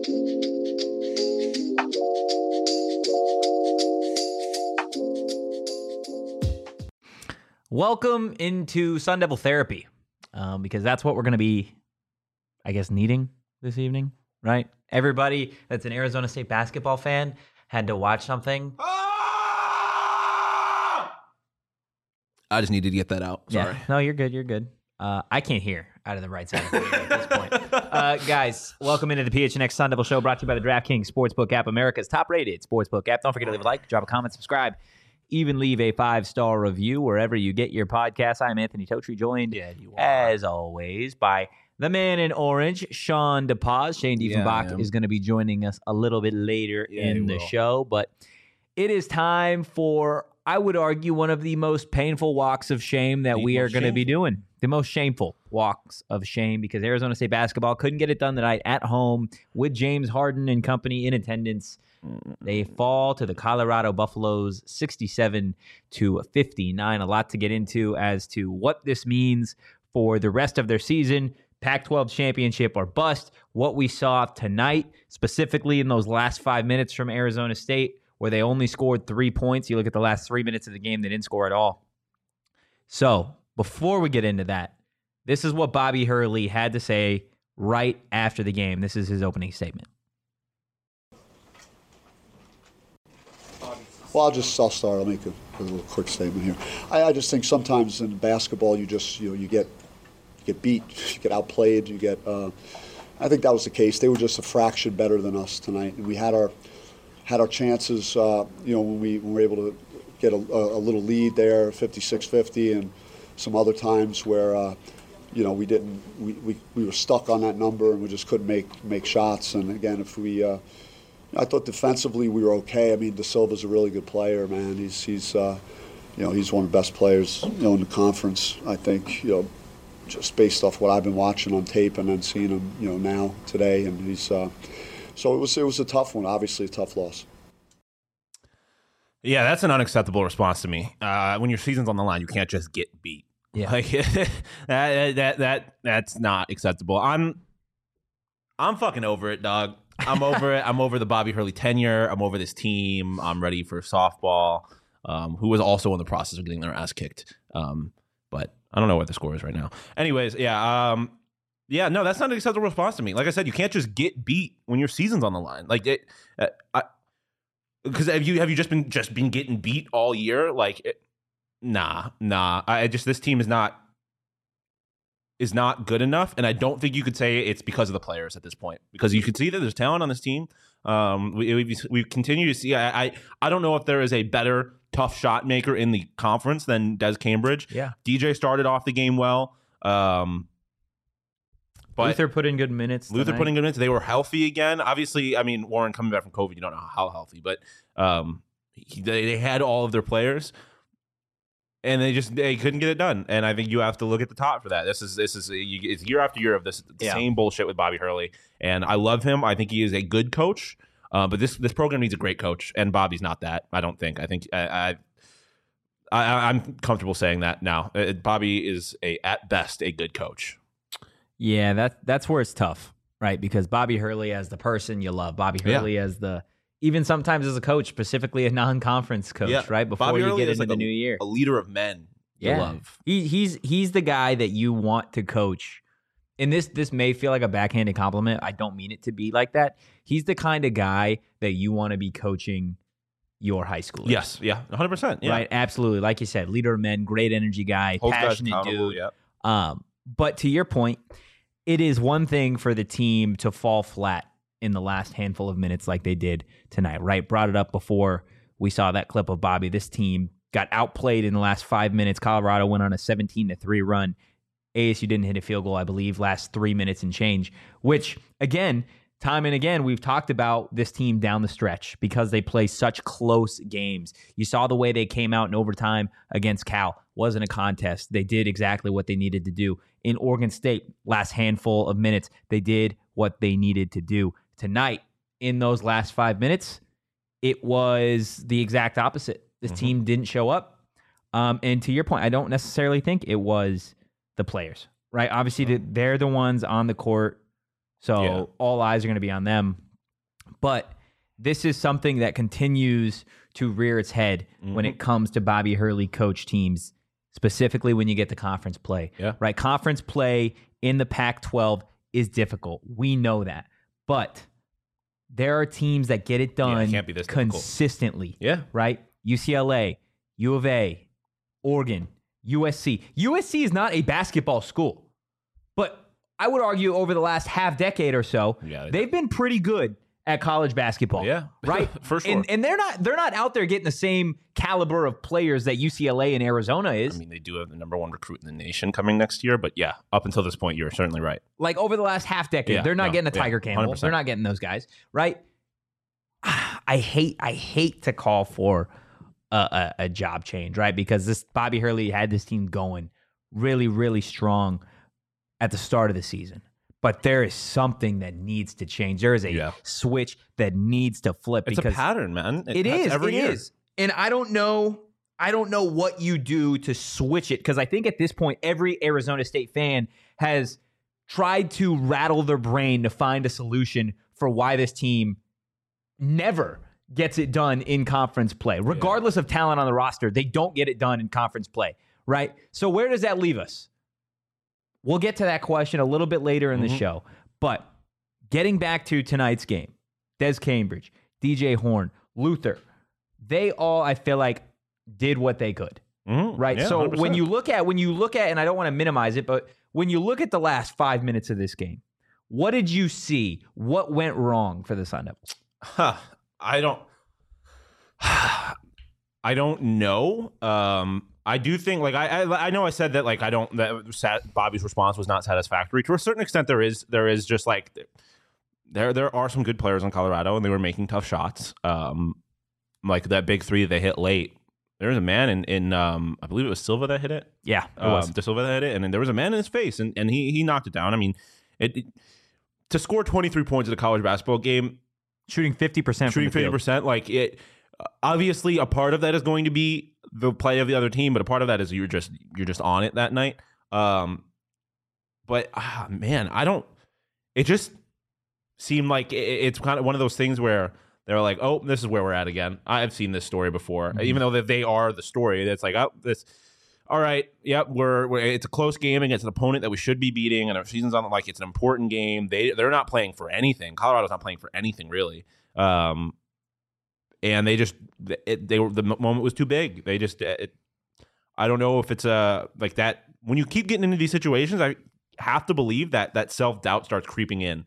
Welcome into Sun Devil Therapy, because that's what we're going to be, I guess, needing this evening, right? Everybody that's an Arizona State basketball fan had to watch something. I just needed to get that out. Sorry. Yeah. No, you're good. You're good. I can't hear out of the right side of the ear at this point. Guys, welcome into the PHNX Sun Devil Show, brought to you by the DraftKings Sportsbook app, America's top-rated sportsbook app. Don't forget to leave a like, drop a comment, subscribe, even leave a 5-star review wherever you get your podcasts. I'm Anthony Totri, joined, as always, by the man in orange, Sean DePaz. Shane Diefenbach is going to be joining us a little bit later in the show, but it is time for, I would argue, one of the most painful walks of shame that we are going to be doing. The most shameful walks of shame, because Arizona State basketball couldn't get it done tonight at home with James Harden and company in attendance. They fall to the Colorado Buffaloes 67-59. A lot to get into as to what this means for the rest of their season. Pac-12 championship or bust. What we saw tonight, specifically in those last 5 minutes from Arizona State, where they only scored 3 points. You look at the last 3 minutes of the game, they didn't score at all. So, before we get into that, this is what Bobby Hurley had to say right after the game. This is his opening statement. Well, I'll start. I'll make a little quick statement here. I just think sometimes in basketball you get beat, you get outplayed, I think that was the case. They were just a fraction better than us tonight, and we had our chances. When we were able to get a little lead there, 56-50, and some other times where we were stuck on that number and we just couldn't make shots. And again, I thought defensively we were okay. I mean, De Silva's a really good player, man. He's one of the best players in the conference. I think just based off what I've been watching on tape and then seeing him now today, and he's so it was a tough one. Obviously, a tough loss. Yeah, that's an unacceptable response to me. When your season's on the line, you can't just get beat. Yeah, like, that's not acceptable. I'm fucking over it, dog. I'm over it. I'm over the Bobby Hurley tenure. I'm over this team. I'm ready for softball, who was also in the process of getting their ass kicked. But I don't know what the score is right now. Anyways, no, that's not an acceptable response to me. Like I said, you can't just get beat when your season's on the line. Like it, because have you just been getting beat all year? Like, nah. This team is not not good enough, and I don't think you could say it's because of the players at this point, because you can see that there's talent on this team. We continue to see. I don't know if there is a better tough shot maker in the conference than Des Cambridge. Yeah, DJ started off the game well. But Luther put in good minutes. They were healthy again. Obviously, I mean, Warren coming back from COVID, you don't know how healthy, but they had all of their players. And they couldn't get it done, and I think you have to look at the top for that. This is it's year after year of this same bullshit with Bobby Hurley, and I love him. I think he is a good coach, but this program needs a great coach, and Bobby's not that. I don't think. I think I'm comfortable saying that now. Bobby is at best a good coach. Yeah, that's where it's tough, right? Because Bobby Hurley as the person you love, Bobby Hurley as even sometimes as a coach, specifically a non-conference coach, right? Before Bobby you Hurley get into like the new year. A leader of men you love. He's the guy that you want to coach. And this may feel like a backhanded compliment. I don't mean it to be like that. He's the kind of guy that you want to be coaching your high schoolers. Yes, 100%. Yeah. Right, absolutely. Like you said, leader of men, great energy guy, passionate dude. Yep. But to your point, it is one thing for the team to fall flat in the last handful of minutes like they did tonight, right? Brought it up before we saw that clip of Bobby. This team got outplayed in the last 5 minutes. Colorado went on a 17-3 run. ASU didn't hit a field goal, I believe, last 3 minutes and change, which, again, time and again, we've talked about this team down the stretch because they play such close games. You saw the way they came out in overtime against Cal. Wasn't a contest. They did exactly what they needed to do. In Oregon State, last handful of minutes, they did what they needed to do. Tonight, in those last 5 minutes, it was the exact opposite. This team didn't show up. And to your point, I don't necessarily think it was the players, right? Obviously, they're the ones on the court, so all eyes are going to be on them. But this is something that continues to rear its head when it comes to Bobby Hurley coach teams, specifically when you get to conference play. Yeah. Right? Conference play in the Pac-12 is difficult. We know that. But there are teams that get it done it can't be this difficult. consistently. Yeah. Right? UCLA, U of A, Oregon, USC. USC is not a basketball school. But I would argue over the last half decade or so, they've been pretty good at college basketball. Yeah. Right? For sure. And they're not out there getting the same caliber of players that UCLA and Arizona is. I mean, they do have the #1 recruit in the nation coming next year, but yeah, up until this point, you're certainly right. Like over the last half decade, they're not getting a Tiger Campbell. 100%. They're not getting those guys, right? I hate to call for a job change, right? Because this Bobby Hurley had this team going really, really strong at the start of the season. But there is something that needs to change. There is a switch that needs to flip. It's because a pattern, man. It is. Every year. And I don't know what you do to switch it, because I think at this point, every Arizona State fan has tried to rattle their brain to find a solution for why this team never gets it done in conference play. Regardless of talent on the roster, they don't get it done in conference play, right? So where does that leave us? We'll get to that question a little bit later in the show. But getting back to tonight's game, Des Cambridge, DJ Horn, Luther, they all, I feel like, did what they could. Right? Yeah, so 100%. when you look at, and I don't want to minimize it, but when you look at the last 5 minutes of this game, what did you see? What went wrong for the Sun Devils? I don't know. I do think, like, I know I said that, like, Bobby's response was not satisfactory. To a certain extent, there is just, like, there are some good players in Colorado, and they were making tough shots. Like that big three they hit late. There was a man in I believe it was Silva that hit it. Yeah, it was. De Silva that hit it, and then there was a man in his face, and he knocked it down. I mean, to score 23 points at a college basketball game, shooting 50%, shooting 50%, like it. Obviously, a part of that is going to be the play of the other team, but a part of that is you're just on it that night. But man, it just seemed like it's kind of one of those things where they're like, oh, this is where we're at again. I've seen this story before, even though they are the story. It's like, oh, this. All right, yep, we're it's a close game against an opponent that we should be beating, and our season's on, like, it's an important game. They're not playing for anything. Colorado's not playing for anything really. And the moment was too big. They just, I don't know if it's like that. When you keep getting into these situations, I have to believe that self-doubt starts creeping in.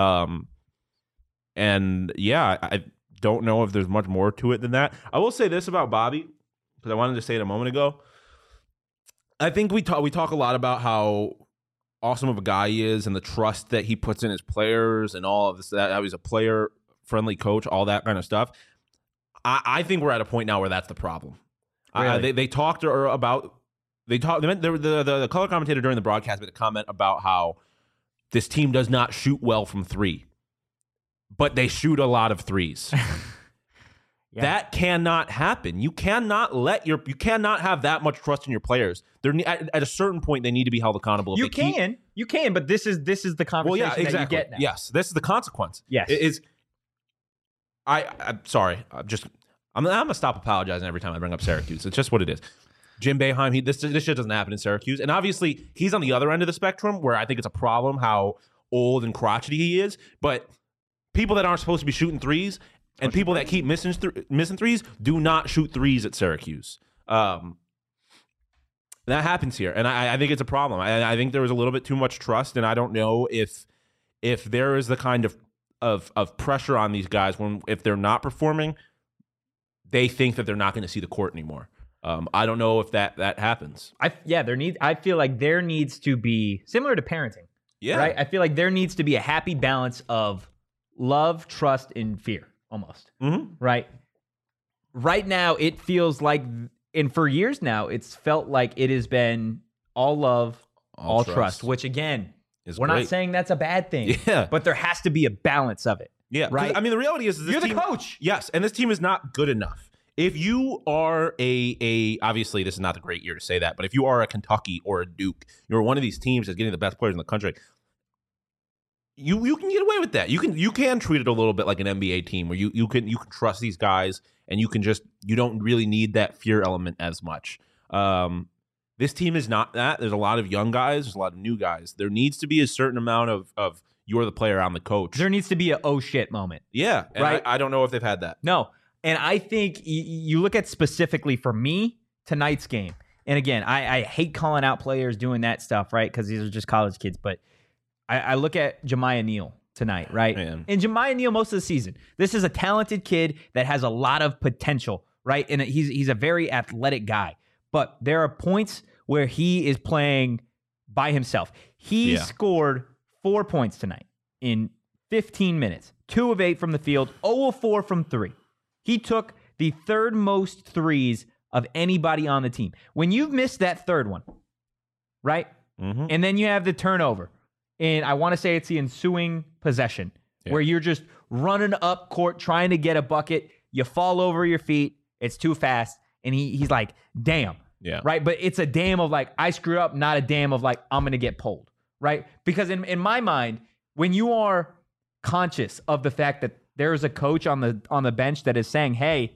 And yeah, I don't know if there's much more to it than that. I will say this about Bobby, because I wanted to say it a moment ago. I think we talk a lot about how awesome of a guy he is and the trust that he puts in his players and all of this, that how he's a player-friendly coach, all that kind of stuff. I think we're at a point now where that's the problem. Really? They talked about the color commentator during the broadcast made a comment about how this team does not shoot well from three, but they shoot a lot of threes. Yeah. That cannot happen. You cannot have that much trust in your players. At a certain point, they need to be held accountable. You can, but this is the conversation that you get now. Yes, this is the consequence. Yes, it is. I'm sorry. I'm gonna stop apologizing every time I bring up Syracuse. It's just what it is. Jim Boeheim, this shit doesn't happen in Syracuse, and obviously he's on the other end of the spectrum where I think it's a problem how old and crotchety he is. But people that aren't supposed to be shooting threes and people that keep missing threes do not shoot threes at Syracuse. That happens here, and I think it's a problem. I think there was a little bit too much trust, and I don't know if there is the kind of pressure on these guys if they're not performing, they think that they're not going to see the court anymore. I don't know if that happens. I feel like there needs to be, similar to parenting. Yeah. Right? I feel like there needs to be a happy balance of love, trust, and fear, almost. Mm-hmm. Right? Right now, it feels like, and for years now, it's felt like it has been all love, all trust, which again, we're great. not saying that's a bad thing. Yeah. But there has to be a balance of it. Yeah. Right? I mean, the reality is You're the coach. Yes. And this team is not good enough. If you are obviously this is not the great year to say that, but if you are a Kentucky or a Duke, you're one of these teams that's getting the best players in the country, you can get away with that. You can treat it a little bit like an NBA team where you can trust these guys and you don't really need that fear element as much. This team is not that. There's a lot of young guys. There's a lot of new guys. There needs to be a certain amount of you're the player, I'm the coach. There needs to be a oh shit moment. Yeah, and right. I don't know if they've had that. No, and I think you look at specifically for me tonight's game. And again, I hate calling out players doing that stuff, right? Because these are just college kids, but. I look at Jemiah Neal tonight, right? Man. And Jemiah Neal most of the season. This is a talented kid that has a lot of potential, right? And he's a very athletic guy. But there are points where he is playing by himself. He scored 4 points tonight in 15 minutes. 2 of 8 from the field, 0 of 4 from 3. He took the third most threes of anybody on the team. When you've missed that third one, right? Mm-hmm. And then you have the turnover. And I want to say it's the ensuing possession where you're just running up court trying to get a bucket. You fall over your feet. It's too fast. And he's like, damn. Yeah. Right. But it's a damn of like, I screwed up, not a damn of like, I'm going to get pulled. Right. Because in my mind, when you are conscious of the fact that there is a coach on the bench that is saying, hey,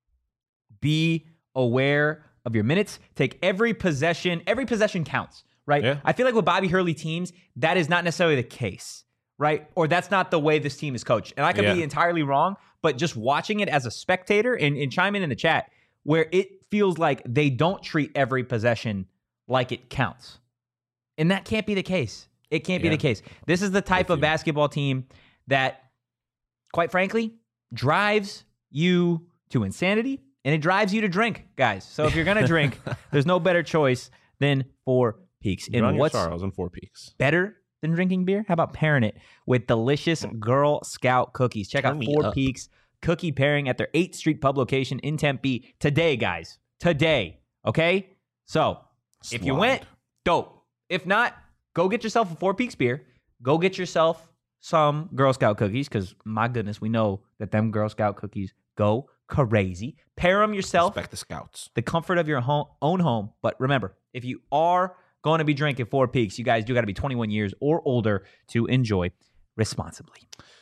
be aware of your minutes, take every possession counts. Right? Yeah. I feel like with Bobby Hurley teams, that is not necessarily the case, right? Or that's not the way this team is coached. And I could be entirely wrong, but just watching it as a spectator and chime in the chat where it feels like they don't treat every possession like it counts. And that can't be the case. It can't be the case. This is the type of basketball team that, quite frankly, drives you to insanity and it drives you to drink, guys. So if you're going to drink, there's no better choice than Four Peaks. And what's Charles and 4 Peaks better than drinking beer? How about pairing it with delicious Girl Scout cookies? Check out Four Peaks cookie pairing at their 8th Street Pub location in Tempe today, guys. Today. Okay? So, if you went, dope. If not, go get yourself a 4 Peaks beer. Go get yourself some Girl Scout cookies because, my goodness, we know that them Girl Scout cookies go crazy. Pair them yourself. Respect the Scouts. The comfort of your own home. But remember, if you are going to be drinking 4 Peaks, you guys do got to be 21 years or older to enjoy responsibly.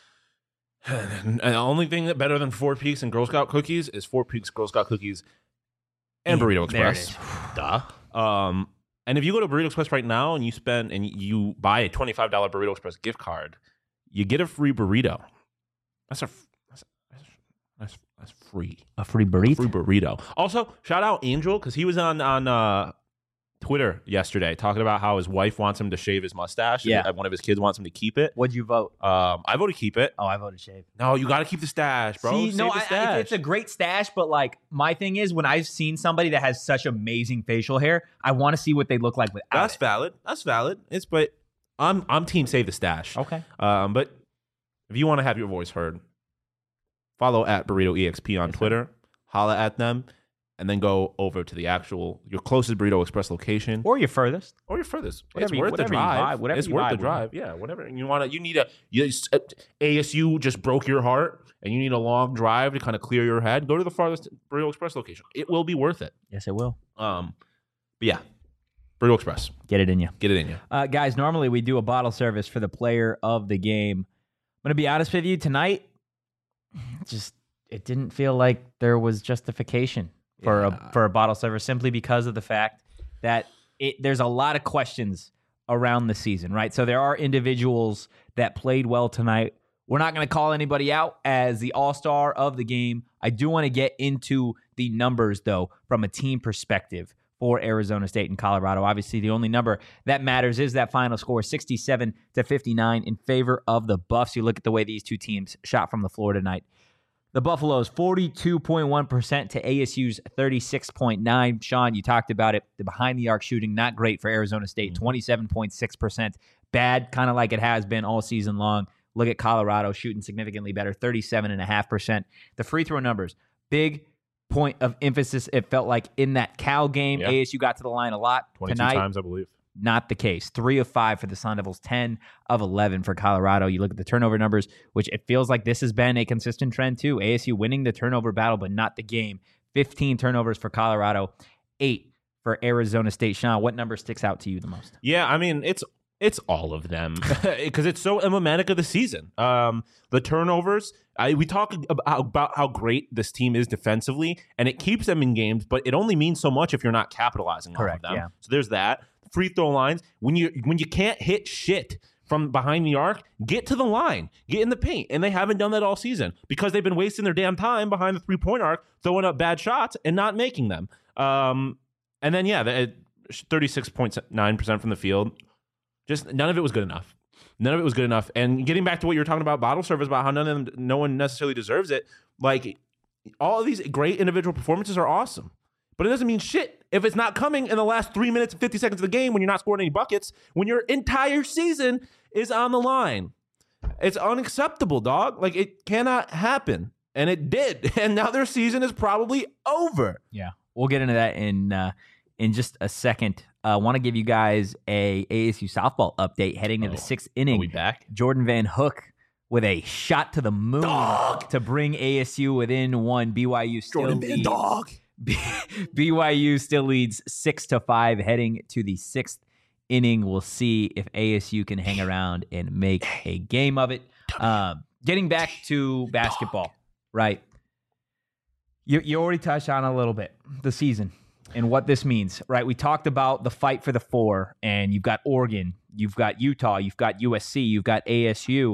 And the only thing that better than 4 Peaks and Girl Scout cookies is 4 Peaks Girl Scout cookies and Burrito Express. Duh. And if you go to Burrito Express right now and you buy a $25 Burrito Express gift card, you get a free burrito. That's free. A free burrito? Free burrito. Also, shout out Angel because he was on Twitter yesterday talking about how his wife wants him to shave his mustache. Yeah. And one of his kids wants him to keep it. What'd you vote? I voted keep it. Oh, I voted shave. No, you got to keep the stash, bro. See, Save no, the stash. it's a great stash, but like my thing is when I've seen somebody that has such amazing facial hair, I want to see what they look like without That's it. valid. That's valid. But I'm team save the stash. Okay. But if you want to have your voice heard, follow at Burrito EXP on Twitter. Holla at them. And then go over to your closest Burrito Express location, Or your furthest. It's worth the drive. It's worth the drive. Yeah, whatever. And ASU just broke your heart, and you need a long drive to kind of clear your head. Go to the farthest Burrito Express location. It will be worth it. Yes, it will. But yeah, Burrito Express. Get it in you. Get it in you. Guys, normally we do a bottle service for the player of the game. I'm going to be honest with you. Tonight, it didn't feel like there was justification for a bottle service simply because of the fact that there's a lot of questions around the season, right? So there are individuals that played well tonight. We're not going to call anybody out as the all-star of the game. I do want to get into the numbers, though, from a team perspective for Arizona State and Colorado. Obviously, the only number that matters is that final score, 67-59 in favor of the Buffs. You look at the way these two teams shot from the floor tonight. The Buffaloes, 42.1% to ASU's 36.9%. Sean, you talked about it. The behind-the-arc shooting, not great for Arizona State, 27.6%. Bad, kind of like it has been all season long. Look at Colorado shooting significantly better, 37.5%. The free throw numbers, big point of emphasis, it felt like, in that Cal game. Yeah. ASU got to the line a lot. 22 tonight, times, I believe. Not the case. 3 of 5 for the Sun Devils, 10 of 11 for Colorado. You look at the turnover numbers, which it feels like this has been a consistent trend too. ASU winning the turnover battle, but not the game. 15 turnovers for Colorado, 8 for Arizona State. Sean, what number sticks out to you the most? Yeah, I mean, it's It's all of them because it's so emblematic of the season. The turnovers, we talk about how great this team is defensively, and it keeps them in games, but it only means so much if you're not capitalizing off of them. Yeah. So there's that. Free throw lines, when you can't hit shit from behind the arc, get to the line, get in the paint, and they haven't done that all season because they've been wasting their damn time behind the 3-point arc, throwing up bad shots and not making them. And then 36.9% from the field. Just none of it was good enough. None of it was good enough. And getting back to what you were talking about, bottle service, about how no one necessarily deserves it. Like, all of these great individual performances are awesome, but it doesn't mean shit if it's not coming in the last 3 minutes and 50 seconds of the game when you're not scoring any buckets, when your entire season is on the line. It's unacceptable, dog. Like, it cannot happen. And it did. And now their season is probably over. Yeah. We'll get into that in just a second. I want to give you guys a ASU softball update heading to the 6th inning. Are we back? Jordan Van Hook with a shot to the moon to bring ASU within one. BYU still leads. BYU still leads 6-5 heading to the 6th inning. We'll see if ASU can hang around and make a game of it. Getting back to basketball, right? You already touched on a little bit the season and what this means, right? We talked about the fight for the 4, and you've got Oregon, you've got Utah, you've got USC, you've got ASU.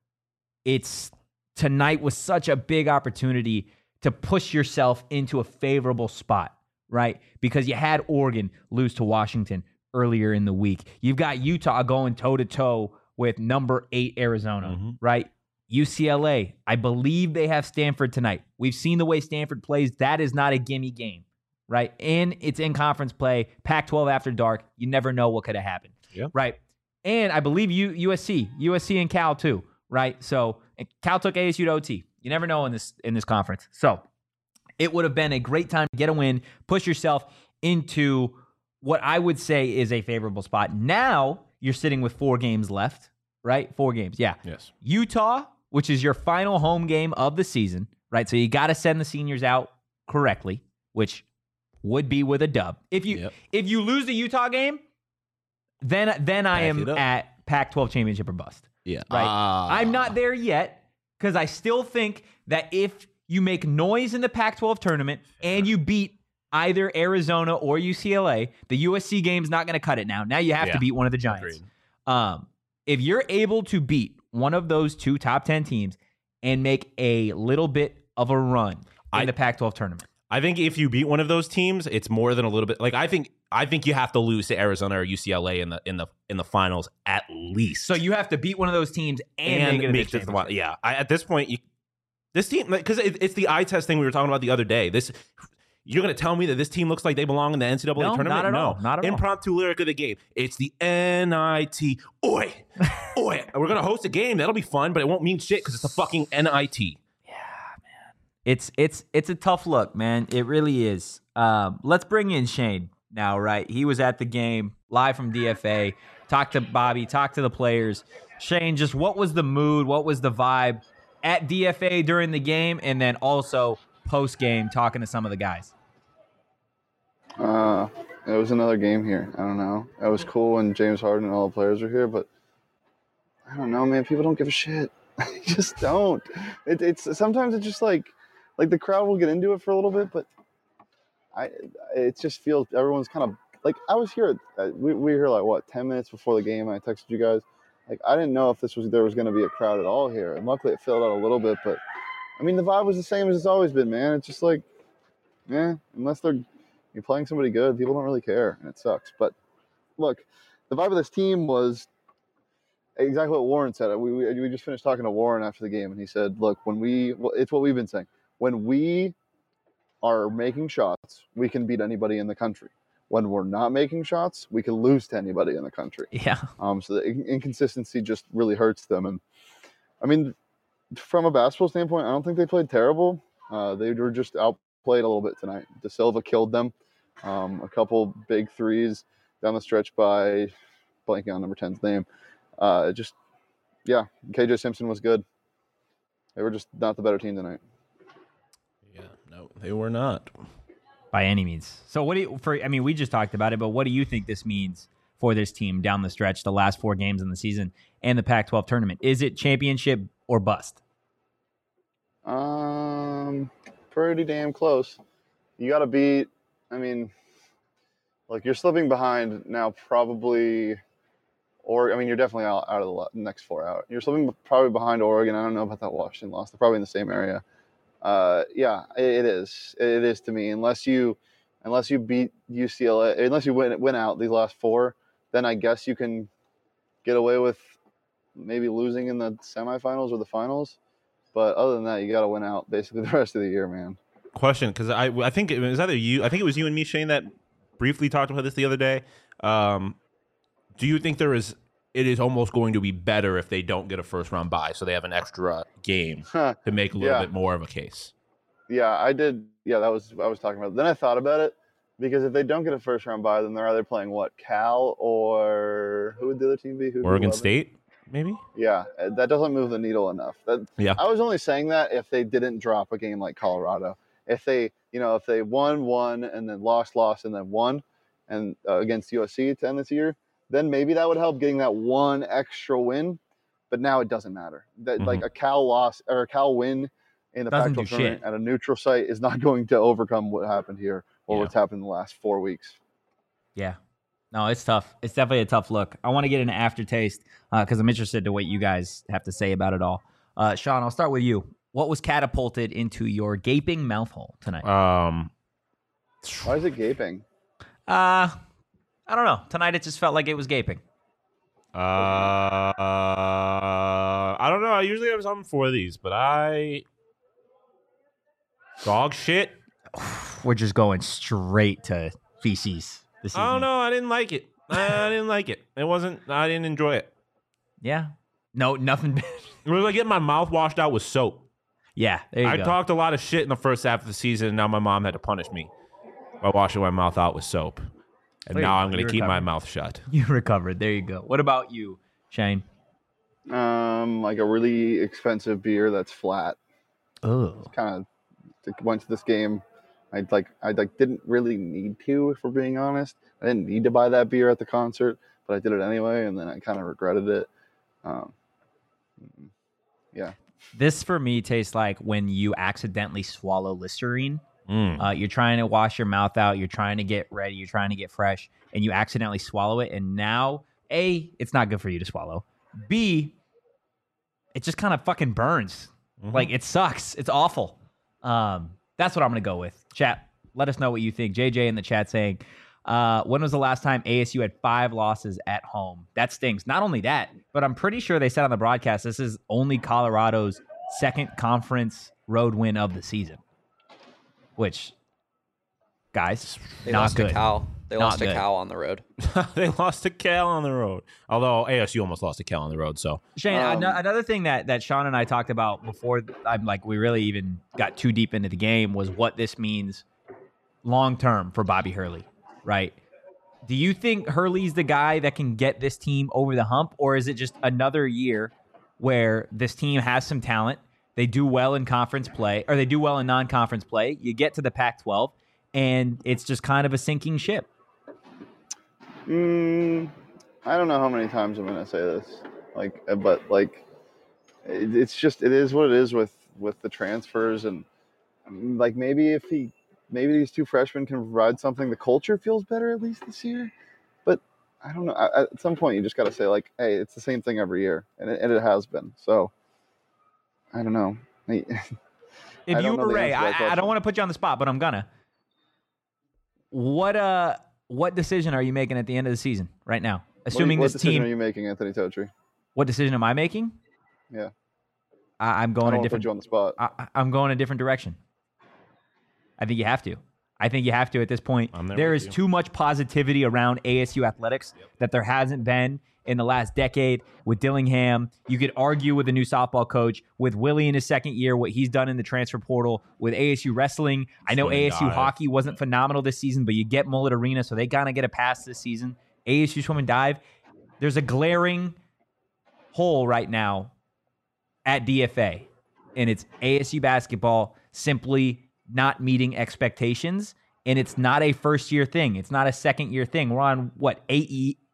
Tonight was such a big opportunity to push yourself into a favorable spot, right? Because you had Oregon lose to Washington earlier in the week. You've got Utah going toe-to-toe with number 8 Arizona, right? UCLA, I believe they have Stanford tonight. We've seen the way Stanford plays. That is not a gimme game, right? And it's in conference play, Pac-12 after dark. You never know what could have happened, right? And I believe USC and Cal too, right? So Cal took ASU to OT. You never know in this conference. So it would have been a great time to get a win, push yourself into what I would say is a favorable spot. Now you're sitting with 4 games left, right? 4 games, yeah. Yes. Utah, which is your final home game of the season, right? So you got to send the seniors out correctly, which would be with a dub. If you lose the Utah game, then I am at Pac-12 championship or bust. Yeah. Right. I'm not there yet because I still think that if you make noise in the Pac-12 tournament and you beat either Arizona or UCLA, the USC game's not going to cut it now. Now you have to beat one of the Giants. If you're able to beat one of those 2 top 10 teams and make a little bit of a run in the Pac-12 tournament. I think if you beat one of those teams, it's more than a little bit. Like, I think you have to lose to Arizona or UCLA in the finals at least. So you have to beat one of those teams and make it to the finals. Yeah. At this point, this team, because it's the eye test thing we were talking about the other day. You're going to tell me that this team looks like they belong in the NCAA tournament? Not at all. Not at all. Impromptu lyric of the game. It's the NIT. Oi. Oi. We're going to host a game. That'll be fun, but it won't mean shit because it's the fucking NIT. It's a tough look, man. It really is. Let's bring in Shane now, right? He was at the game live from DFA. Talk to Bobby, talk to the players. Shane, just what was the mood? What was the vibe at DFA during the game? And then also post-game talking to some of the guys. It was another game here. I don't know. It was cool when James Harden and all the players were here, but I don't know, man. People don't give a shit. They just don't. It's sometimes it's just like the crowd will get into it for a little bit, but it just feels everyone's kind of like I was here. We were here like what 10 minutes before the game. I texted you guys. Like I didn't know if there was going to be a crowd at all here, and luckily it filled out a little bit. But I mean, the vibe was the same as it's always been, man. It's just like, unless you're playing somebody good, people don't really care, and it sucks. But look, the vibe of this team was exactly what Warren said. We just finished talking to Warren after the game, and he said, look, it's what we've been saying. When we are making shots, we can beat anybody in the country. When we're not making shots, we can lose to anybody in the country. Yeah. So the inconsistency just really hurts them. And I mean, from a basketball standpoint, I don't think they played terrible. They were just outplayed a little bit tonight. De Silva killed them. A couple big threes down the stretch by blanking on number 10's name. KJ Simpson was good. They were just not the better team tonight. Yeah, no, they were not. By any means. So we just talked about it, but what do you think this means for this team down the stretch, the last 4 games in the season and the Pac-12 tournament? Is it championship or bust? Pretty damn close. You got to beat. I mean, like you're slipping behind now, probably. Or I mean, you're definitely out of the next 4 out. You're slipping probably behind Oregon. I don't know about that Washington loss. They're probably in the same area. Yeah, it is. It is to me. Unless you beat UCLA, unless you win out these last 4, then I guess you can get away with maybe losing in the semifinals or the finals. But other than that, you got to win out basically the rest of the year, man. Question, because I think it was either you. I think it was you and me, Shane, that briefly talked about this the other day. Do you think it is almost going to be better if they don't get a first round bye, so they have an extra game to make a little bit more of a case? Yeah, I did. Yeah, I was talking about it. Then I thought about it, because if they don't get a first round bye, then they're either playing Cal or who would the other team be? Oregon State, maybe? Yeah, that doesn't move the needle enough. I was only saying that if they didn't drop a game like Colorado. If they won and then lost and then won and against USC to end this year, then maybe that would help getting that one extra win. But now it doesn't matter. That like a Cal loss or a Cal win in the Pac-12 tournament at a neutral site is not going to overcome what happened here or what's happened in the last 4 weeks. Yeah. No, it's tough. It's definitely a tough look. I want to get an aftertaste because I'm interested to what you guys have to say about it all. Sean, I'll start with you. What was catapulted into your gaping mouth hole tonight? Why is it gaping? I don't know. Tonight it just felt like it was gaping. I don't know. I usually have something for these, but dog shit. We're just going straight to feces this evening. I don't know. I didn't like it. I didn't like it. I didn't enjoy it. Yeah. No, nothing. It was like getting my mouth washed out with soap. Yeah, there you go. I talked a lot of shit in the first half of the season, and now my mom had to punish me by washing my mouth out with soap. And now I'm going to keep my mouth shut. You recovered. There you go. What about you, Shane? Like a really expensive beer that's flat. Oh. Kind of went to this game. I didn't really need to, if we're being honest. I didn't need to buy that beer at the concert, but I did it anyway, and then I kind of regretted it. Yeah. This for me tastes like when you accidentally swallow Listerine. You're trying to wash your mouth out. You're trying to get ready. You're trying to get fresh, and you accidentally swallow it. And now, A, it's not good for you to swallow. B, it just kind of fucking burns. Like, it sucks. It's awful. That's what I'm going to go with. Chat, let us know what you think. JJ in the chat saying, when was the last time ASU had 5 losses at home? That stings. Not only that, but I'm pretty sure they said on the broadcast this is only Colorado's second conference road win of the season. Which, guys, they not lost good. To Cal. They Not lost good. to Cal on the road. They lost to Cal on the road. Although ASU almost lost to Cal on the road. So Shane, another thing that Sean and I talked about before we really even got too deep into the game was what this means long term for Bobby Hurley, right? Do you think Hurley's the guy that can get this team over the hump, or is it just another year where this team has some talent? They do well in conference play, or they do well in non-conference play. You get to the Pac-12, and it's just kind of a sinking ship. I don't know how many times I'm going to say this, but it's just, it is what it is with the transfers, and like maybe these 2 freshmen can provide something. The culture feels better at least this year, but I don't know. At some point, you just got to say like, hey, it's the same thing every year, and it has been. So. I don't know. If you were Ray, I don't want to put you on the spot, but I'm gonna. What decision are you making at the end of the season right now? Assuming what this team. What decision are you making, Anthony Totri? What decision am I making? Yeah. I'm going a different. Put you on the spot. I'm going a different direction. I think you have to. I think you have to at this point. There is too much positivity around ASU athletics that there hasn't been in the last decade with Dillingham. You could argue with the new softball coach, with Willie in his second year, what he's done in the transfer portal, with ASU wrestling. I know ASU hockey wasn't phenomenal this season, but you get Mullet Arena, so they kind of get a pass this season. ASU swim and dive. There's a glaring hole right now at DFA, and it's ASU basketball simply not meeting expectations, and it's not a first-year thing. It's not a second-year thing. We're on, 8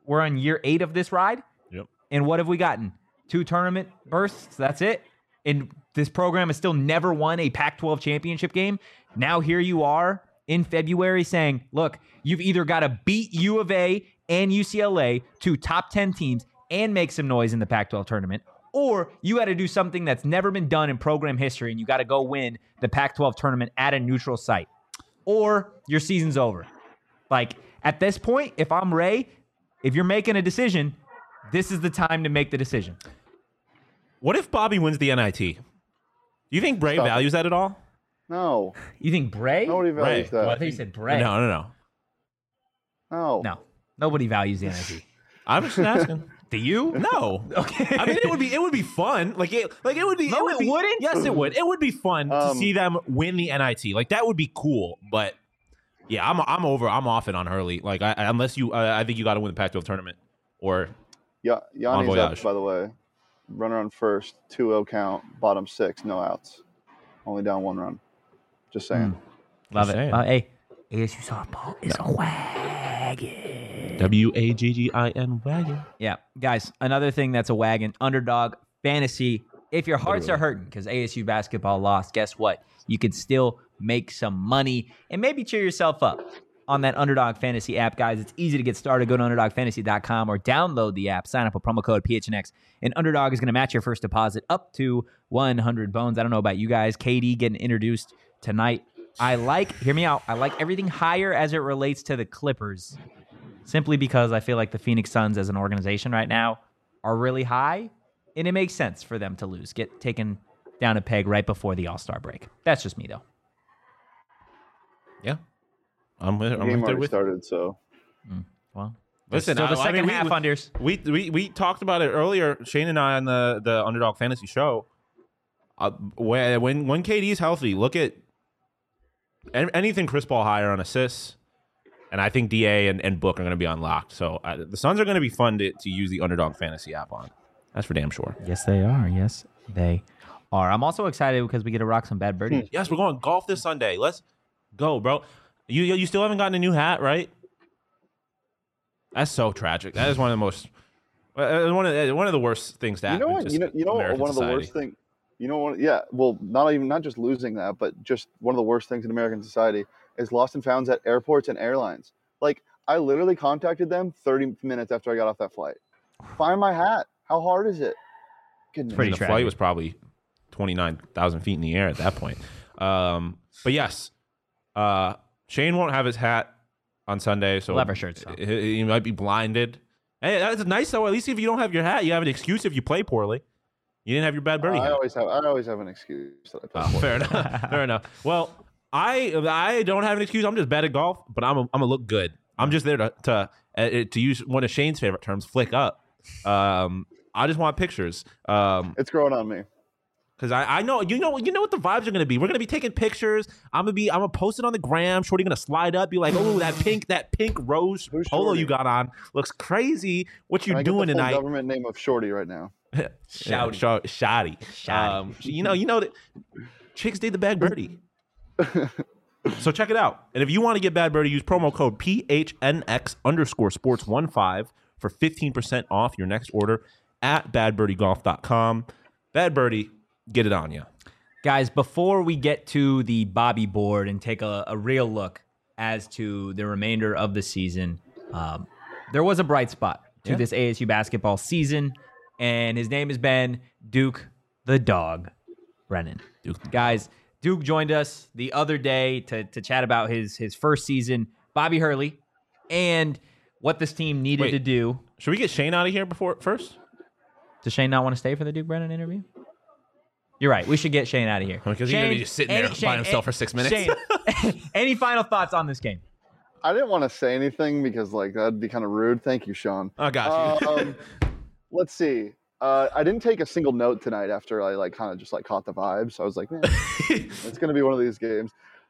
We're on year 8 of this ride. Yep. And what have we gotten? 2 tournament bursts. That's it. And this program has still never won a Pac-12 championship game. Now here you are in February saying, look, you've either got to beat U of A and UCLA, 2 top 10 teams, and make some noise in the Pac-12 tournament, or you got to do something that's never been done in program history, and you got to go win the Pac-12 tournament at a neutral site, or your season's over. Like, at this point, if I'm Ray, if you're making a decision, this is the time to make the decision. What if Bobby wins the NIT? Do you think Bray values that at all? No. You think Bray? Nobody values Bray. that. I think you said Bray. No. No. Nobody values the NIT. I'm just asking. Do you? No. Okay. I mean, it would be fun. Like it would be. No, it wouldn't? Yes, it would. It would be fun to see them win the NIT. Like that would be cool. But yeah, I'm off it on Hurley. Like unless you, I think you got to win the Pac-12 tournament or. Yeah, Yanni's Bon up, voyage. by the way. Runner on first, 2-0 count, bottom 6, no outs. Only down 1 run. Just saying. Love Just it. saying. Hey, ASU softball is a wagon. WAGGIN wagon. Yeah, guys, another thing that's a wagon, Underdog Fantasy. If your hearts are hurting because ASU basketball lost, guess what? You can still make some money and maybe cheer yourself up on that Underdog Fantasy app, guys. It's easy to get started. Go to UnderdogFantasy.com or download the app. Sign up with promo code PHNX, and Underdog is going to match your first deposit up to 100 bones. I don't know about you guys. KD getting introduced tonight. Hear me out, I like everything higher as it relates to the Clippers, simply because I feel like the Phoenix Suns as an organization right now are really high, and it makes sense for them to lose, get taken down a peg right before the All-Star break. That's just me, though. Yeah. I'm The game right there already with. started, so. Well, Listen, still the second half, Unders. We talked about it earlier, Shane and I on the Underdog Fantasy show. When KD's healthy, look at anything Chris Paul higher on assists, and I think DA and Book are going to be unlocked. So the Suns are going to be fun to use the Underdog Fantasy app on. That's for damn sure. Yes, they are. Yes, they are. I'm also excited because we get to rock some bad birdies. Yes, we're going golf this Sunday. Let's go, bro. You still haven't gotten a new hat, right? That's so tragic. That is one of the most one of the worst things to You happen. know what? You know American one of the society. worst things. You know what? Yeah. Well, not just losing that, but just one of the worst things in American society is lost and founds at airports and airlines. Like I literally contacted them 30 minutes after I got off that flight. Find my hat. How hard is it? Goodness. Pretty the tragic. flight was probably 29,000 feet in the air at that point. But yes, Shane won't have his hat on Sunday, so Leather shirts, though. he might be blinded. Hey, that's nice though. At least if you don't have your hat, you have an excuse if you play poorly. You didn't have your bad birdie I hat. always have an excuse that I play for. Fair enough. Fair enough. Well, I don't have an excuse. I'm just bad at golf, but I'm gonna look good. I'm just there to use one of Shane's favorite terms, flick up. I just want pictures. It's growing on me. Because I know you know what the vibes are gonna be. We're gonna be taking pictures. I'm gonna post it on the gram. Shorty gonna slide up, be like, "Oh, that pink rose Who's polo Shorty? you got on looks crazy. What you Can I get doing the full tonight?" government name of Shorty right now. Shoddy. You know that chicks did the bad birdie. So check it out. And if you want to get bad birdie, use promo code PHNX_sports15 for 15% off your next order at badbirdiegolf.com. Bad birdie, get it on you. Guys, before we get to the Bobby board and take a real look as to the remainder of the season, there was a bright spot to this ASU basketball season, and his name has been Duke the Dog Brennan. Guys, Duke joined us the other day to chat about his first season, Bobby Hurley, and what this team needed to do. Should we get Shane out of here first? Does Shane not want to stay for the Duke Brennan interview? You're right. We should get Shane out of here. Because he's going to be just sitting there by himself for 6 minutes. Shane, any final thoughts on this game? I didn't want to say anything because that'd be kind of rude. Thank you, Sean. Oh, got you. Let's see. I didn't take a single note tonight after I kind of just caught the vibe. So I was like, man, it's going to be one of these games.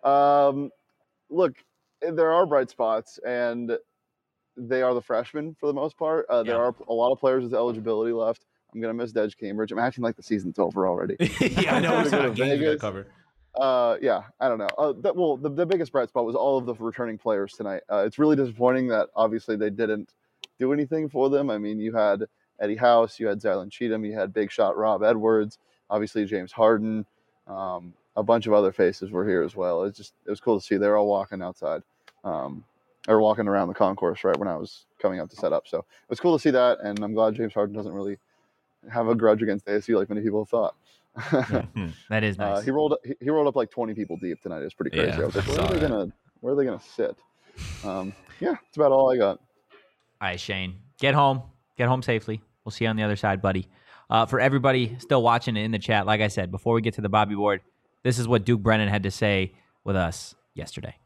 Look, there are bright spots, and they are the freshmen for the most part. There are a lot of players with eligibility left. I'm going to miss Dej Cambridge. I'm acting like the season's over already. Yeah, I know. It's not games we got covered. Yeah, I don't know. The biggest bright spot was all of the returning players tonight. It's really disappointing that obviously they didn't do anything for them. I mean, you had Eddie House, you had Zylan Cheatham, you had big shot Rob Edwards, obviously James Harden, a bunch of other faces were here as well. It was cool to see. They were all walking outside, or walking around the concourse right when I was coming up to set up. So it was cool to see that, and I'm glad James Harden doesn't really have a grudge against ASU like many people thought. That is nice. He rolled up like 20 people deep tonight. It was pretty crazy. Yeah, I was like, where are they gonna sit? Yeah, that's about all I got. All right, Shane, get home safely. We'll see you on the other side, buddy. For everybody still watching in the chat, like I said, before we get to the Bobby board, this is what Duke Brennan had to say with us yesterday.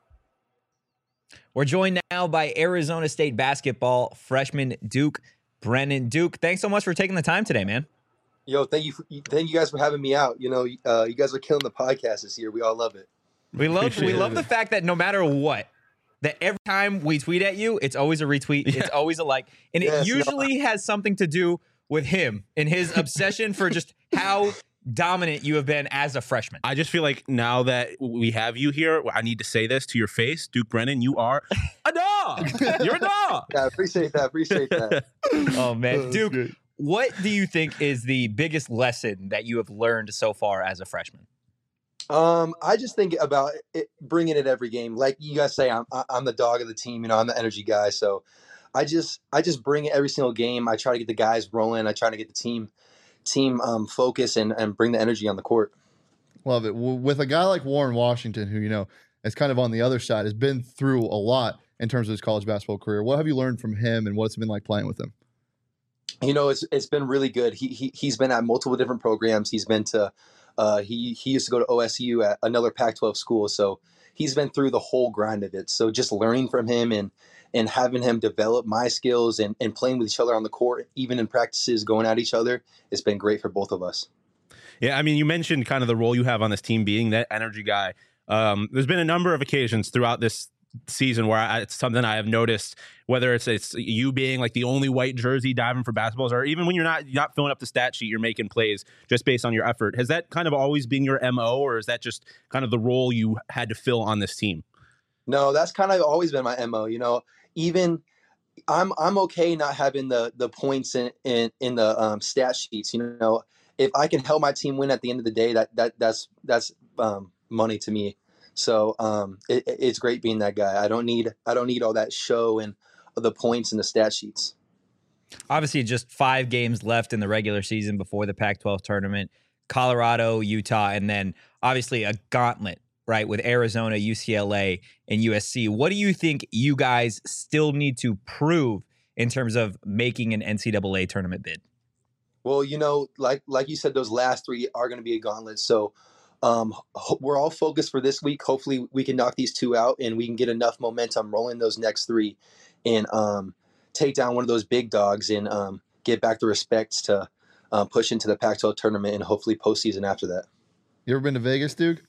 We're joined now by Arizona State basketball freshman Duke Brennan. Duke, thanks so much for taking the time today, man. Yo, thank you guys for having me out. You know, you guys are killing the podcast this year. We all love it. We love the fact that no matter what, that every time we tweet at you, it's always a retweet, it's always a like, and it usually has something to do with him and his obsession for just how dominant you have been as a freshman. I just feel like now that we have you here, I need to say this to your face. Duke Brennan, you are a dog. You're a dog. Yeah, I appreciate that. Oh, man. Duke, what do you think is the biggest lesson that you have learned so far as a freshman? I just think about bringing it every game. Like you guys say, I'm the dog of the team. You know, I'm the energy guy. So I just bring it every single game. I try to get the guys rolling. I try to get the team focus and bring the energy on the court. Love it. With a guy like Warren Washington, who, you know, is kind of on the other side, has been through a lot in terms of his college basketball career. What have you learned from him, and what's it been like playing with him? You know, it's been really good. He's been at multiple different programs. He's been to he used to go to OSU at another Pac-12 school. So he's been through the whole grind of it. So just learning from him and having him develop my skills and playing with each other on the court, even in practices, going at each other, it's been great for both of us. Yeah, I mean, you mentioned kind of the role you have on this team, being that energy guy. There's been a number of occasions throughout this season where it's something I have noticed, whether it's you being like the only white jersey diving for basketballs, or even when you're not filling up the stat sheet, you're making plays just based on your effort. Has that kind of always been your MO, or is that just kind of the role you had to fill on this team? No, that's kind of always been my MO. You know, even I'm okay not having the points in the stat sheets. You know, if I can help my team win at the end of the day, that's money to me. So it's great being that guy. I don't need all that show and the points and the stat sheets. Obviously, just 5 games left in the regular season before the Pac-12 tournament. Colorado, Utah, and then obviously a gauntlet, right, with Arizona, UCLA, and USC. What do you think you guys still need to prove in terms of making an NCAA tournament bid? Well, you know, like you said, those last 3 are going to be a gauntlet. So we're all focused for this week. Hopefully we can knock these 2 out and we can get enough momentum rolling those next 3 and take down one of those big dogs and get back the respect to push into the Pac-12 tournament and hopefully postseason after that. You ever been to Vegas, Duke?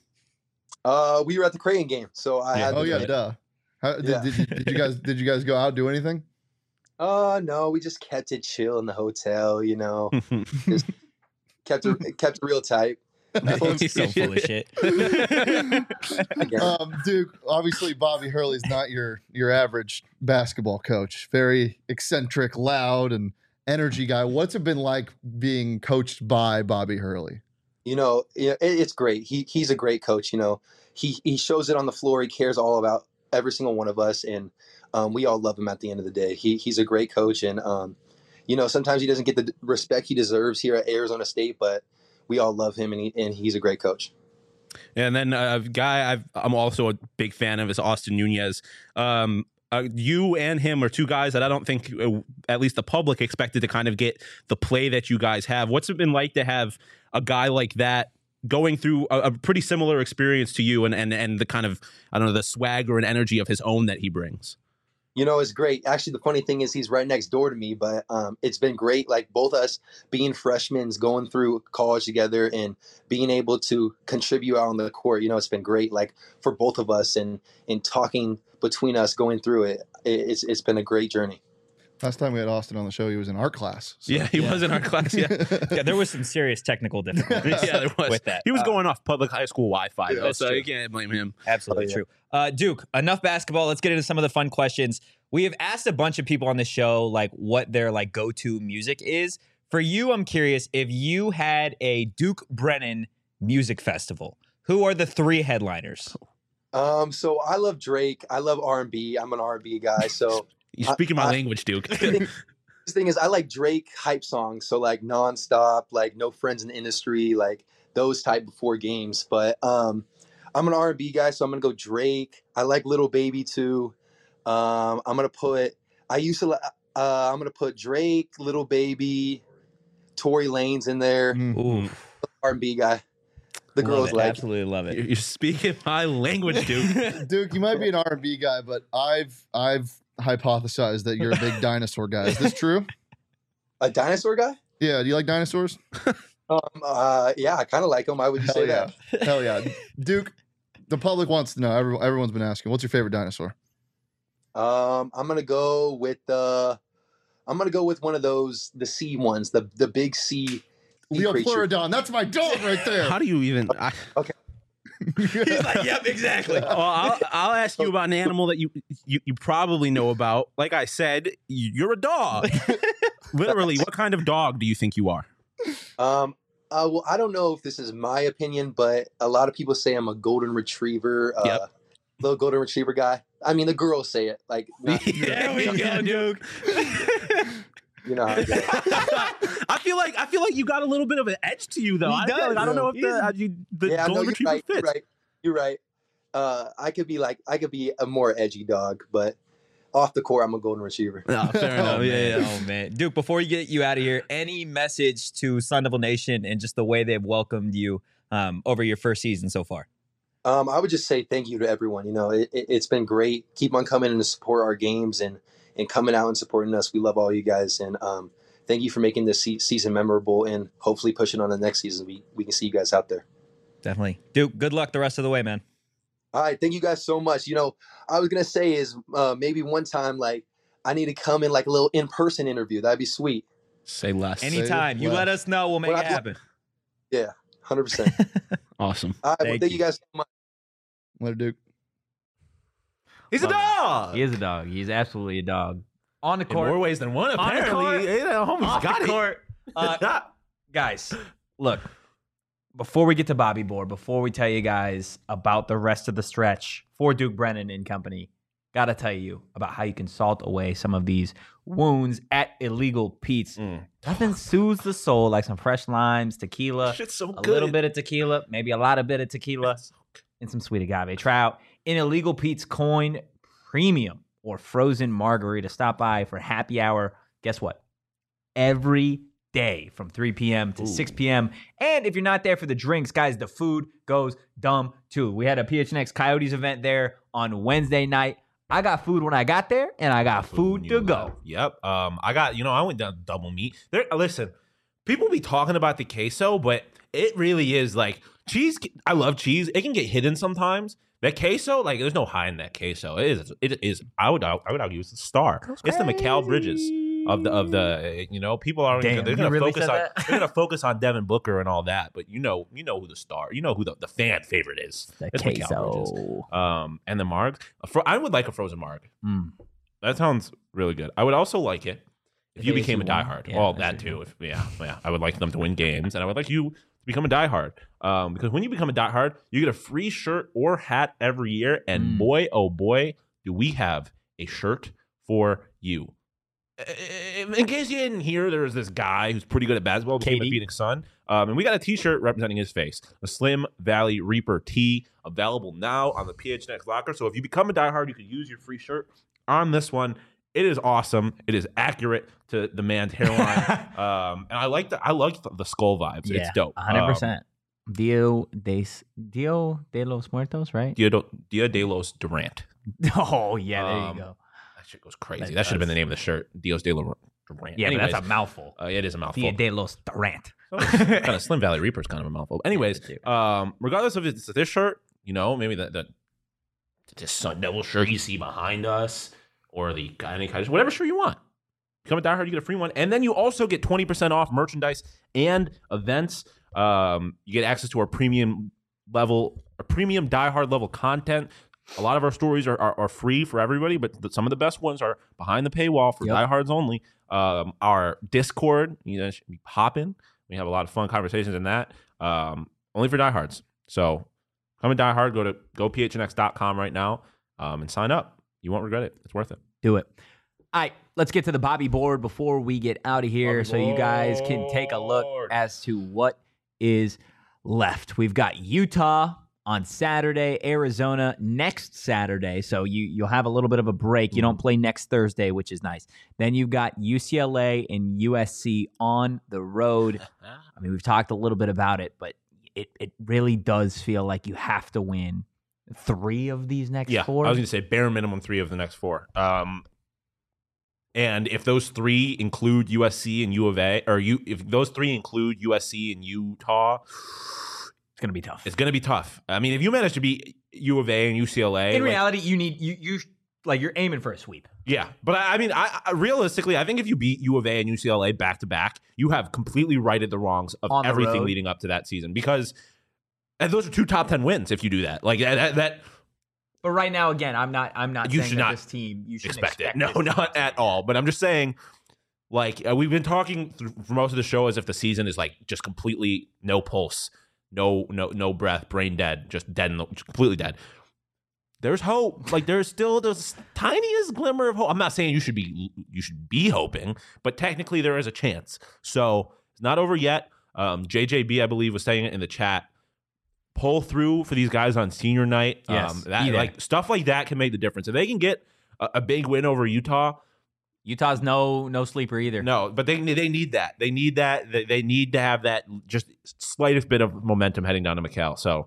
We were at the Creighton game, so I had. Oh yeah, duh. Did you guys go out, do anything? No, we just kept it chill in the hotel. You know, just kept it real tight. He's so full of shit. Duke, obviously Bobby Hurley's not your average basketball coach. Very eccentric, loud, and energy guy. What's it been like being coached by Bobby Hurley? You know, it's great. He's a great coach. You know, he shows it on the floor. He cares all about every single one of us, and we all love him at the end of the day. He's a great coach, and you know, sometimes he doesn't get the respect he deserves here at Arizona State, but we all love him, and he's a great coach. And then a guy I'm also a big fan of is Austin Nunez. You and him are 2 guys that I don't think, at least the public, expected to kind of get the play that you guys have. What's it been like to have a guy like that going through a pretty similar experience to you and the kind of, I don't know, the swagger and energy of his own that he brings? You know, it's great. Actually, the funny thing is he's right next door to me, but it's been great. Like both us being freshmen, going through college together and being able to contribute out on the court. You know, it's been great, like for both of us and talking between us going through it. It's been a great journey. Last time we had Austin on the show, he was in art class. So. Yeah, he was in our class. Yeah, Yeah, there was some serious technical difficulties yeah, there was. with that. He was going off public high school Wi-Fi, though, that's so true. you can't blame him. Absolutely true. Duke, enough basketball. Let's get into some of the fun questions. We have asked a bunch of people on the show like what their like go-to music is. For you, I'm curious if you had a Duke Brennan music festival. Who are the 3 headliners? So I love Drake. I love R&B. I'm an R&B guy. So You're speaking my language, Duke. the thing is, I like Drake hype songs. So like Nonstop, like No Friends in the Industry, like those type before games. But I'm an R&B guy, so I'm gonna go Drake. I like Little Baby too. I'm gonna put Drake, Little Baby, Tory Lanez in there. Ooh, R&B guy. The girls like it. absolutely love it. You're speaking my language, Duke. Duke, you might be an R&B guy, but I've hypothesized that you're a big dinosaur guy. Is this true? A dinosaur guy? Yeah. Do you like dinosaurs? Yeah, I kind of like them. Why would you say that? Hell yeah. Duke, the public wants to know. Everyone's been asking. What's your favorite dinosaur? I'm gonna go with one of those, the sea ones, the big sea. Leopleurodon. That's my dog right there. How do you even? He's like, yep, exactly. Well, I'll ask you about an animal that you probably know about. Like I said, you're a dog. Literally, what kind of dog do you think you are? Well, I don't know if this is my opinion, but a lot of people say I'm a golden retriever. Yep. Little golden retriever guy. I mean, the girls say it. Like, There we go, Duke. you know how it goes. I feel like you got a little bit of an edge to you, though. He I does. don't know if the Yeah, no, golden you're retriever right. fits. You're right. I could be a more edgy dog, but off the court, I'm a golden retriever. No, fair enough. Yeah. Oh man, Duke. Before we get you out of here, any message to Sun Devil Nation and just the way they've welcomed you over your first season so far? I would just say thank you to everyone. You know, it's been great. Keep on coming in to support our games and coming out and supporting us. We love all you guys, and thank you for making this season memorable, and hopefully pushing on the next season. We can see you guys out there. Definitely, Duke. Good luck the rest of the way, man. All right, thank you guys so much. You know, I was gonna say is maybe one time like I need to come in like a little in-person interview. That'd be sweet. Say less. Anytime you let us know, we'll make it happen. Yeah, 100%. Awesome. All right, well, thank you guys so much. Let Duke. He's a dog. He is a dog. He's absolutely a dog. On the In court. more ways than one, On the apparently. court. Yeah, homie's Off got the it. court. Guys, look, before we get to Bobby Board, before we tell you guys about the rest of the stretch for Duke Brennan and company, got to tell you about how you can salt away some of these wounds at Illegal Pete's. Nothing soothes the soul like some fresh limes, tequila, Shit's so a good. little bit of tequila, maybe a lot of bit of tequila, and some sweet agave trout in Illegal Pete's Coin Premium or frozen margarita. Stop by for happy hour. Guess what? Every day from 3 p.m. to 6 p.m. And if you're not there for the drinks, guys, the food goes dumb too. We had a PHNX Coyotes event there on Wednesday night. I got food when I got there, and I got food to go. Yep. I went down double meat. Listen, people be talking about the queso, but it really is like cheese. I love cheese. It can get hidden sometimes. That queso, like, there's no high in that queso. It is. I would argue it's the star. It's the Mikal Bridges of the. People are. Damn, they're you gonna really focus said on. that? They're gonna focus on Devin Booker and all that. But you know who the star. You know who the fan favorite is. The It's Mikal Bridges. And the marg. I would like a frozen marg. That sounds really good. I would also like it if you became a diehard. Yeah, Well, that's that too. I would like them to win games, and I would like you to become a diehard. Because when you become a diehard, you get a free shirt or hat every year, and boy, oh boy, do we have a shirt for you. In case you didn't hear, there was this guy who's pretty good at basketball, became a Phoenix Sun, and we got a T-shirt representing his face, a Slim Valley Reaper tee, available now on the PHNX locker. So if you become a diehard, you can use your free shirt on this one. It is awesome. It is accurate to the man's hairline, and I like the skull vibes. Yeah, it's dope. 100%. Dia de los Muertos, right? Dia de los Durant. Oh, yeah, there you go. That shit goes crazy. That should have been the name of the shirt. Dios de los Durant. Yeah, Anyways, but that's a mouthful. it is a mouthful. Dia de los Durant. Kind of Slim Valley Reaper is kind of a mouthful. Anyways, regardless of it's this shirt, maybe the Sun Devil shirt you see behind us, or the any kind of whatever shirt you want. Become a diehard, you get a free one. And then you also get 20% off merchandise and events. You get access to our premium diehard level content. A lot of our stories are free for everybody, but some of the best ones are behind the paywall for diehards only. Our Discord, should be popping. We have a lot of fun conversations in that. Only for diehards. So come a diehard, go to gophnx.com right now and sign up. You won't regret it. It's worth it. Do it. All right, let's get to the Bobby board before we get out of here so you guys can take a look as to what is left. We've got Utah on Saturday, Arizona next Saturday. So you'll have a little bit of a break. You don't play next Thursday, which is nice. Then you've got UCLA and USC on the road. I mean, we've talked a little bit about it, but it really does feel like you have to win 3 of these next 4. I was going to say bare minimum 3 of the next 4. And if those 3 include USC and U of A, if those 3 include USC and Utah, it's going to be tough. It's going to be tough. I mean, if you manage to beat U of A and UCLA, in reality, you need you're aiming for a sweep. Yeah, but I mean, I realistically, I think if you beat U of A and UCLA back to back, you have completely righted the wrongs of everything leading up to that season, because those are 2 top 10 wins if you do that. Like that. But right now, again, I'm not You saying should that not this team, you shouldn't expect it. No, not at all. But I'm just saying, like, we've been talking for most of the show as if the season is like just completely no pulse, no breath, brain dead, just dead, completely dead. There's hope. Like, there's still the tiniest glimmer of hope. I'm not saying you should be hoping, but technically there is a chance. So it's not over yet. JJB, I believe, was saying it in the chat. Pull through for these guys on senior night. Yes, like stuff like that can make the difference. If they can get a big win over Utah's no sleeper either. No, but they need that. They need that. They need to have that just slightest bit of momentum heading down to McCall. So,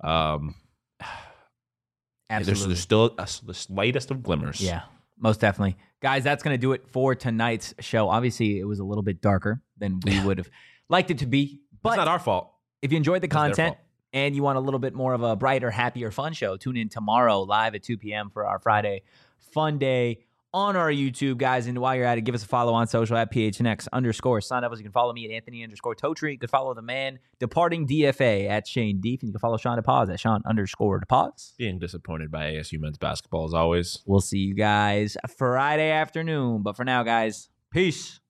absolutely, there's still the slightest of glimmers. Yeah, most definitely, guys. That's going to do it for tonight's show. Obviously, it was a little bit darker than we would have liked it to be, but it's not our fault. If you enjoyed the content and you want a little bit more of a brighter, happier, fun show, tune in tomorrow live at 2 p.m. for our Friday Fun Day on our YouTube, guys. And while you're at it, give us a follow on social at PHNX_Sun. You can follow me at Anthony_Totri. You can follow the man departing DFA at Shane Deef. And you can follow Sean DePaz at Sean_DePaz. Being disappointed by ASU men's basketball as always. We'll see you guys Friday afternoon. But for now, guys, peace.